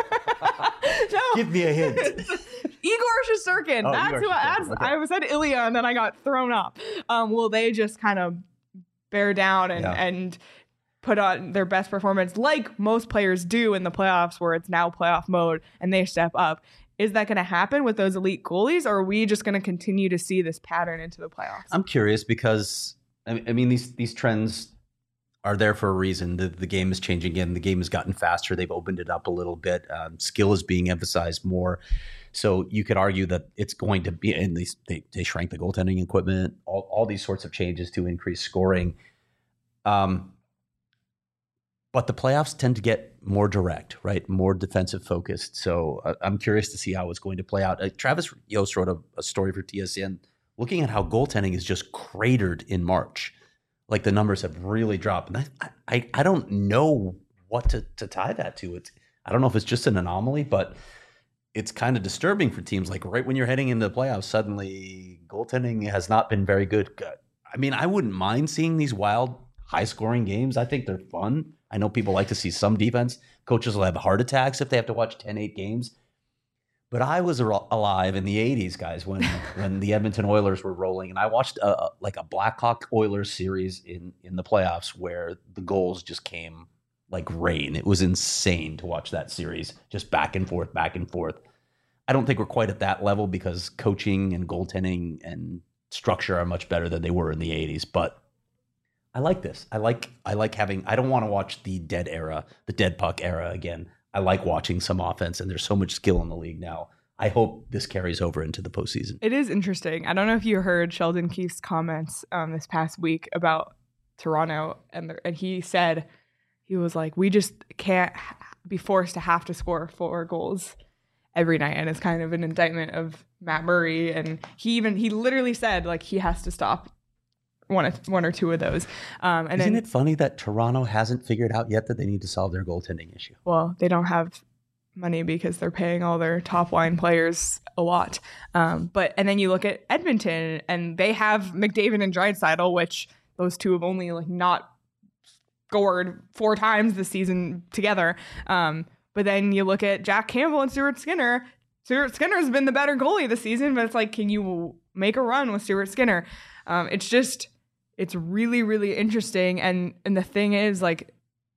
No. Give me a hint. Igor Shesterkin. Oh, that's Igor who I, Shesterkin, that's, okay. I said Ilya and then I got thrown up. Um, will they just kind of bear down and, Yeah. and put on their best performance like most players do in the playoffs where it's now playoff mode and they step up? Is that going to happen with those elite goalies, or are we just going to continue to see this pattern into the playoffs? I'm curious because I I mean these these trends are there for a reason. The the game is changing again. The game has gotten faster. They've opened it up a little bit. Um, skill is being emphasized more. So you could argue that it's going to be, and they they, they shrank the goaltending equipment. All all these sorts of changes to increase scoring. Um, but the playoffs tend to get more direct, right? More defensive focused. So uh, I'm curious to see how it's going to play out. Uh, Travis Yost wrote a, a story for T S N looking at how goaltending is just cratered in March. Like the numbers have really dropped. And I I, I don't know what to, to tie that to. It's, I don't know if it's just an anomaly, but it's kind of disturbing for teams. Like right when you're heading into the playoffs, suddenly goaltending has not been very good. I mean, I wouldn't mind seeing these wild, high-scoring games. I think they're fun. I know people like to see some defense. Coaches will have heart attacks if they have to watch ten eight games. But I was al- alive in the eighties, guys, when when the Edmonton Oilers were rolling. And I watched a, like a Blackhawk Oilers series in, in the playoffs where the goals just came like rain. It was insane to watch that series, just back and forth, back and forth. I don't think we're quite at that level because coaching and goaltending and structure are much better than they were in the eighties. But I like this. I like I like having, I don't want to watch the dead era, the dead puck era again. I like watching some offense, and there's so much skill in the league now. I hope this carries over into the postseason. It is interesting. I don't know if you heard Sheldon Keefe's comments um, this past week about Toronto, and the, and he said, he was like, we just can't be forced to have to score four goals every night, and it's kind of an indictment of Matt Murray. And he even he literally said like he has to stop one of, one or two of those. Um, and Isn't then, it funny that Toronto hasn't figured out yet that they need to solve their goaltending issue? well, they don't have money because they're paying all their top line players a lot. Um, but and then you look at Edmonton, and they have McDavid and Draisaitl, which those two have only like not scored four times this season together. Um, but then you look at Jack Campbell and Stuart Skinner. Stuart Skinner's been the better goalie this season, but it's like, can you make a run with Stuart Skinner? Um, it's just, it's really, really interesting. And and the thing is, like,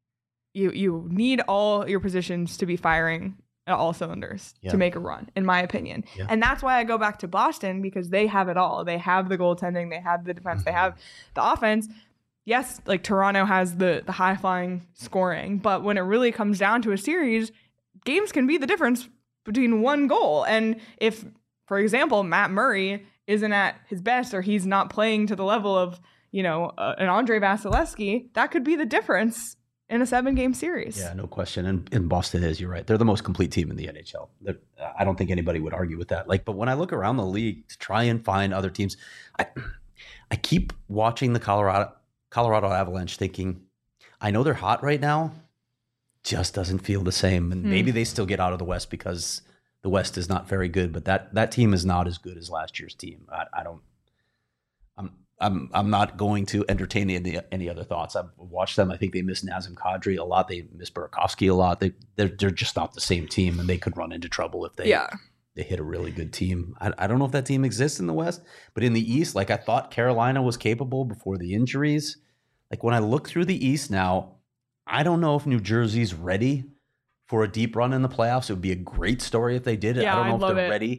you you need all your positions to be firing at all cylinders Yeah. to make a run, in my opinion. Yeah. And that's why I go back to Boston, because they have it all. They have the goaltending, they have the defense, Mm-hmm. they have the offense. Yes, like Toronto has the the high flying scoring, but when it really comes down to a series, games can be the difference between one goal. And if, for example, Matt Murray isn't at his best, or he's not playing to the level of, you know, uh, an Andre Vasilevsky, that could be the difference in a seven game series. Yeah, no question. And, and Boston is, you're right. They're the most complete team in the N H L. They're, I don't think anybody would argue with that. Like, but when I look around the league to try and find other teams, I, I keep watching the Colorado Colorado Avalanche thinking, I know they're hot right now, just doesn't feel the same. And Hmm. maybe they still get out of the West because the West is not very good, but that, that team is not as good as last year's team. I, I don't, I'm, I'm, I'm not going to entertain any, any other thoughts. I've watched them. I think they miss Nazem Kadri a lot. They miss Burakovsky a lot. They, they're, they're just not the same team, and they could run into trouble if they, Yeah. they hit a really good team. I, I don't know if that team exists in the West, but in the East, like I thought Carolina was capable before the injuries. Like when I look through the East now, I don't know if New Jersey's ready for a deep run in the playoffs. It would be a great story if they did it. Yeah, I don't know I'd if love they're it. ready.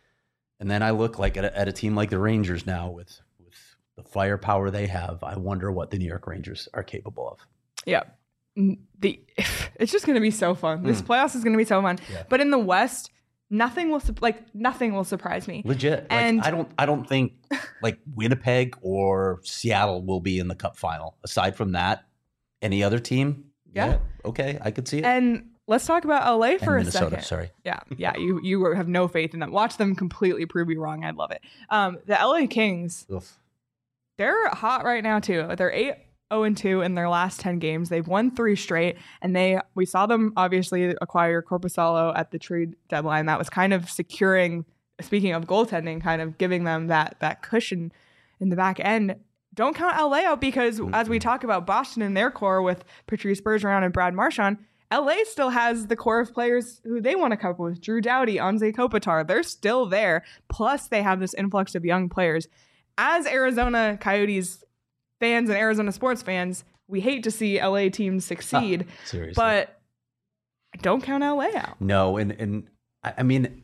And then I look like at a, at a team like the Rangers now with, with the firepower they have. I wonder what the New York Rangers are capable of. Yeah. N- The it's just going to be so fun. This Mm. playoffs is going to be so fun. Yeah. But in the West, nothing will sup- like nothing will surprise me. Legit. Like, And- I don't I don't think like Winnipeg or Seattle will be in the cup final. Aside from that, any other team? Yeah. Okay, I could see it. And let's talk about L A And for a Minnesota, second. sorry. Yeah, yeah. You you have no faith in them. Watch them completely prove you wrong. I'd love it. Um, the L A Kings, Oof. they're hot right now too. They're eight oh and two in their last ten games. They've won three straight, and they we saw them obviously acquire Korpisalo at the trade deadline. That was kind of securing. Speaking of goaltending, kind of giving them that that cushion in the back end. Don't count L A out, because as we talk about Boston and their core with Patrice Bergeron and Brad Marchand, L A still has the core of players who they want to couple with. Drew Doughty, Anze Kopitar, they're still there. Plus, they have this influx of young players. As Arizona Coyotes fans and Arizona sports fans, we hate to see L A teams succeed, Seriously. but don't count L A out. No, and and I I mean,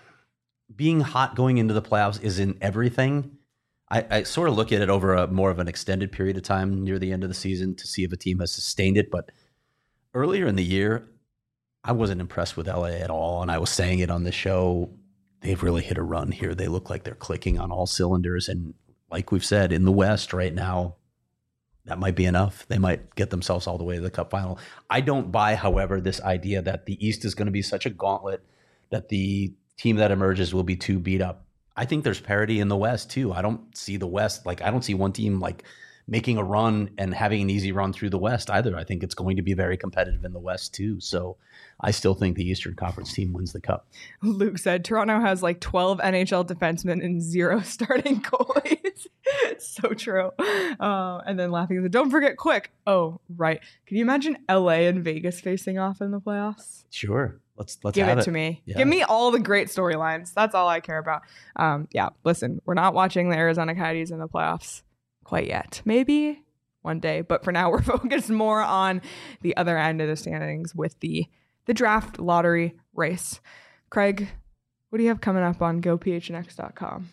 being hot going into the playoffs isn't everything. I, I sort of look at it over a more of an extended period of time near the end of the season to see if a team has sustained it. But earlier in the year, I wasn't impressed with L A at all, and I was saying it on the show. They've really hit a run here. They look like they're clicking on all cylinders, and like we've said, in the West right now, that might be enough. They might get themselves all the way to the cup final. I don't buy, however, this idea that the East is going to be such a gauntlet that the team that emerges will be too beat up. I think there's parity in the West too. I don't see the West, like I don't see one team like making a run and having an easy run through the West either. I think it's going to be very competitive in the West too. So I still think the Eastern Conference team wins the cup. Luke said Toronto has like twelve N H L defensemen and zero starting goalies. So true. Uh, and then laughing, he said, don't forget Quick. Oh, right. Can you imagine L A and Vegas facing off in the playoffs? Sure. Let's let's Give have it, it to me. Yeah. Give me all the great storylines. That's all I care about. Um, yeah, listen, we're not watching the Arizona Coyotes in the playoffs quite yet. Maybe one day, but for now we're focused more on the other end of the standings with the the draft lottery race. Craig, what do you have coming up on go p h n x dot com?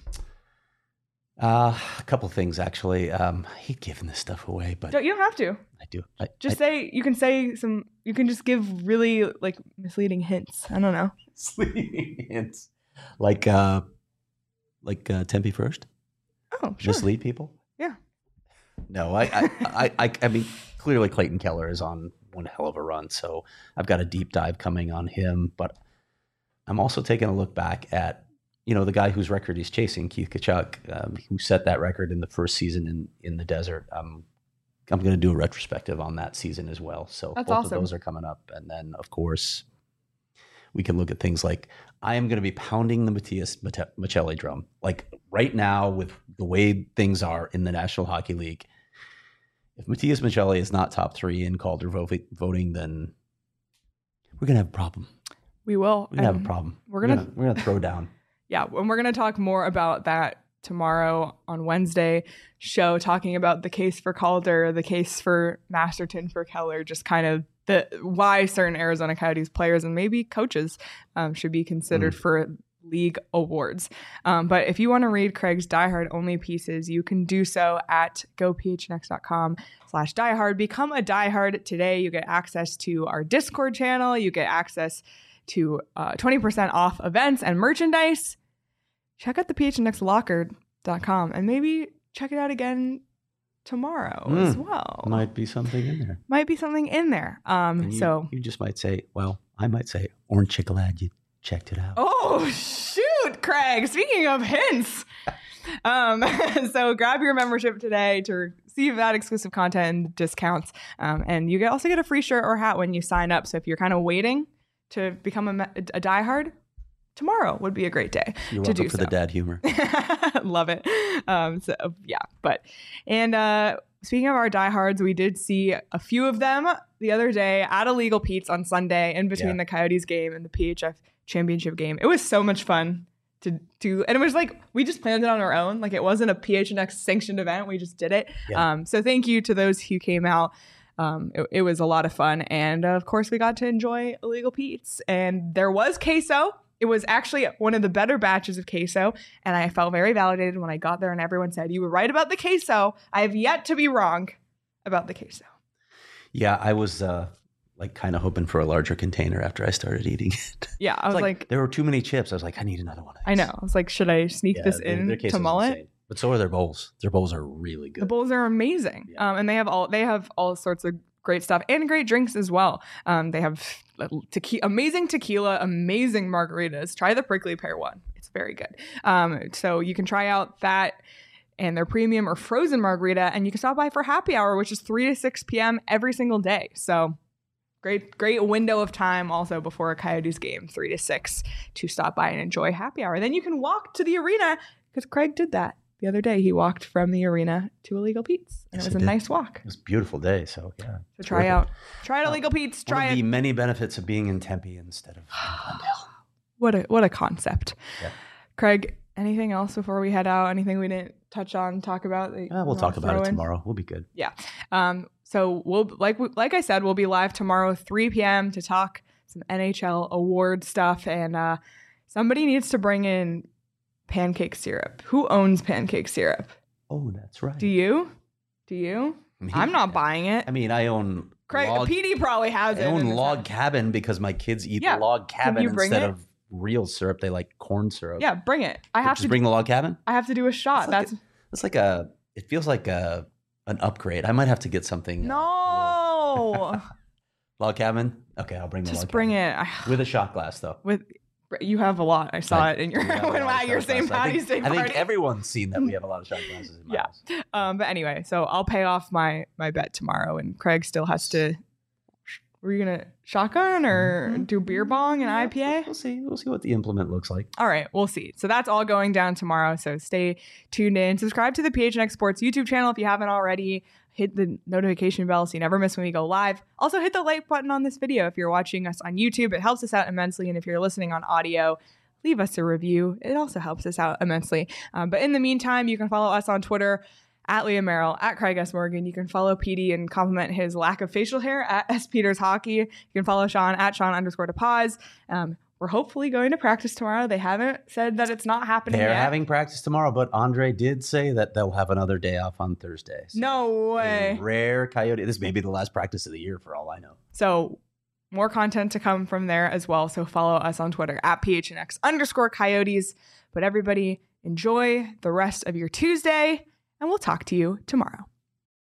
Uh, a couple things actually. Um, I hate giving this stuff away, but Don't, you don't have to. I do. I, Just I, say, you can say some, you can just give really like misleading hints. I don't know. misleading hints, like uh, like uh, Tempe first. Oh, sure. Mislead people. Yeah. No, I, I, I, I, I mean, clearly Clayton Keller is on one hell of a run. So I've got a deep dive coming on him, but I'm also taking a look back at, you know, the guy whose record he's chasing, Keith Kachuk, um, who set that record in the first season in, in the desert. Um, I'm going to do a retrospective on that season as well. So That's both awesome. of those are coming up. And then, of course, we can look at things like I am going to be pounding the Matthias Mate- Michelli drum. Like right now, with the way things are in the National Hockey League, if Matthias Michelli is not top three in Calder vo- voting, then we're going to have a problem. We will. We're going to have a And problem. We're going to, we're going to throw down. yeah, and we're going to talk more about that tomorrow on Wednesday show, talking about the case for Calder, the case for Masterton, for Keller, just kind of the why certain Arizona Coyotes players and maybe coaches um, should be considered mm. for league awards. Um, but if you want to read Craig's diehard only pieces, you can do so at gophnx.com slash diehard. Become a diehard today. You get access to our Discord channel. You get access to uh, twenty percent off events and merchandise. Check out the p h n x locker dot com and maybe check it out again tomorrow mm, as well. Might be something in there. Might be something in there. Um, you, so you just might say, well, I might say, Orange Chick-a-Lad, you checked it out. Oh, shoot, Craig. Speaking of hints. um, so grab your membership today to receive that exclusive content and discounts. Um, and you get, also get a free shirt or hat when you sign up. So if you're kind of waiting to become a, a diehard, tomorrow would be a great day You're to welcome do for so. the dad humor. Love it. Um, so yeah, but, and uh, speaking of our diehards, we did see a few of them the other day at Illegal Pete's on Sunday in between yeah. the Coyotes game and the P H F championship game. It was so much fun to do. And it was like, we just planned it on our own. Like it wasn't a P H N X sanctioned event. We just did it. Yeah. Um, so thank you to those who came out. Um, it, it was a lot of fun. And uh, of course we got to enjoy Illegal Pete's, and there was queso. It was actually one of the better batches of queso, and I felt very validated when I got there and everyone said, you were right about the queso. I have yet to be wrong about the queso. Yeah, I was uh, like kind of hoping for a larger container after I started eating it. Yeah, I was like, like, there were too many chips. I was like, I need another one of these. I know. I was like, should I sneak Yeah, this their- in their queso's to Mullet? insane. But so are their bowls. Their bowls are really good. The bowls are amazing. Yeah. Um, and they have all they have all sorts of great stuff and great drinks as well. Um, they have tequila, amazing tequila, amazing margaritas. Try the prickly pear one. It's very good. Um, so you can try out that and their premium or frozen margarita, and you can stop by for happy hour, which is three to six p.m. every single day. So great, great window of time also before a Coyotes game, three to six, to stop by and enjoy happy hour. Then you can walk to the arena, because Craig did that. The other day, he walked from the arena to Illegal Pete's, and Yes, it was I a did. nice walk. It was a beautiful day, so yeah. So try Terrific. out, try out Illegal Pete's. One Try of it. the many benefits of being in Tempe instead of Glendale. What a what a concept. Yeah. Craig, anything else before we head out? Anything we didn't touch on, talk about? that you Uh, we'll wanna talk about throw it in? tomorrow. We'll be good. Yeah. Um. So we'll like like I said, we'll be live tomorrow, three p.m. to talk some N H L award stuff, and uh, somebody needs to bring in pancake syrup. Who owns pancake syrup? Oh, that's right. Do you? Do you? Me? I'm not buying it. I mean, I own Craig, log, P D probably has I it. in own his log house. cabin because my kids eat Yeah. log cabin you bring instead it? of real syrup. They like corn syrup. Yeah, bring it. I have Just to. bring the log cabin. I have to do a shot. It's like That's It's like a. It feels like a an upgrade. I might have to get something. uh, no. log cabin. Okay, I'll bring the Just log bring cabin. it. with a shot glass though. With you have a lot. I saw I- it in your we have a lot of at your shot Saint glasses. I Patty's think, Day I party. think everyone's seen that we have a lot of shot glasses in my Yeah. house. Um, but anyway, so I'll pay off my my bet tomorrow, and Craig still has to. Were you gonna shotgun or Mhm. do beer bong and Yeah, I P A? We'll see. We'll see what the implement looks like. All right, we'll see. So that's all going down tomorrow. So stay tuned in. Subscribe to the P H N X Sports YouTube channel if you haven't already. Hit the notification bell so you never miss when we go live. Also, hit the like button on this video if you're watching us on YouTube. It helps us out immensely. And if you're listening on audio, leave us a review. It also helps us out immensely. Um, but in the meantime, you can follow us on Twitter at Leah Merrill, at Craig S. Morgan. You can follow P D and compliment his lack of facial hair at S. Peters Hockey. You can follow Sean at Sean underscore to pause. Um, we're hopefully going to practice tomorrow. They haven't said that it's not happening They're yet. having practice tomorrow, but Andre did say that they'll have another day off on Thursday. So No a way. rare Coyote. This may be the last practice of the year for all I know. So more content to come from there as well. So follow us on Twitter at P H N X underscore Coyotes. But everybody enjoy the rest of your Tuesday, and we'll talk to you tomorrow.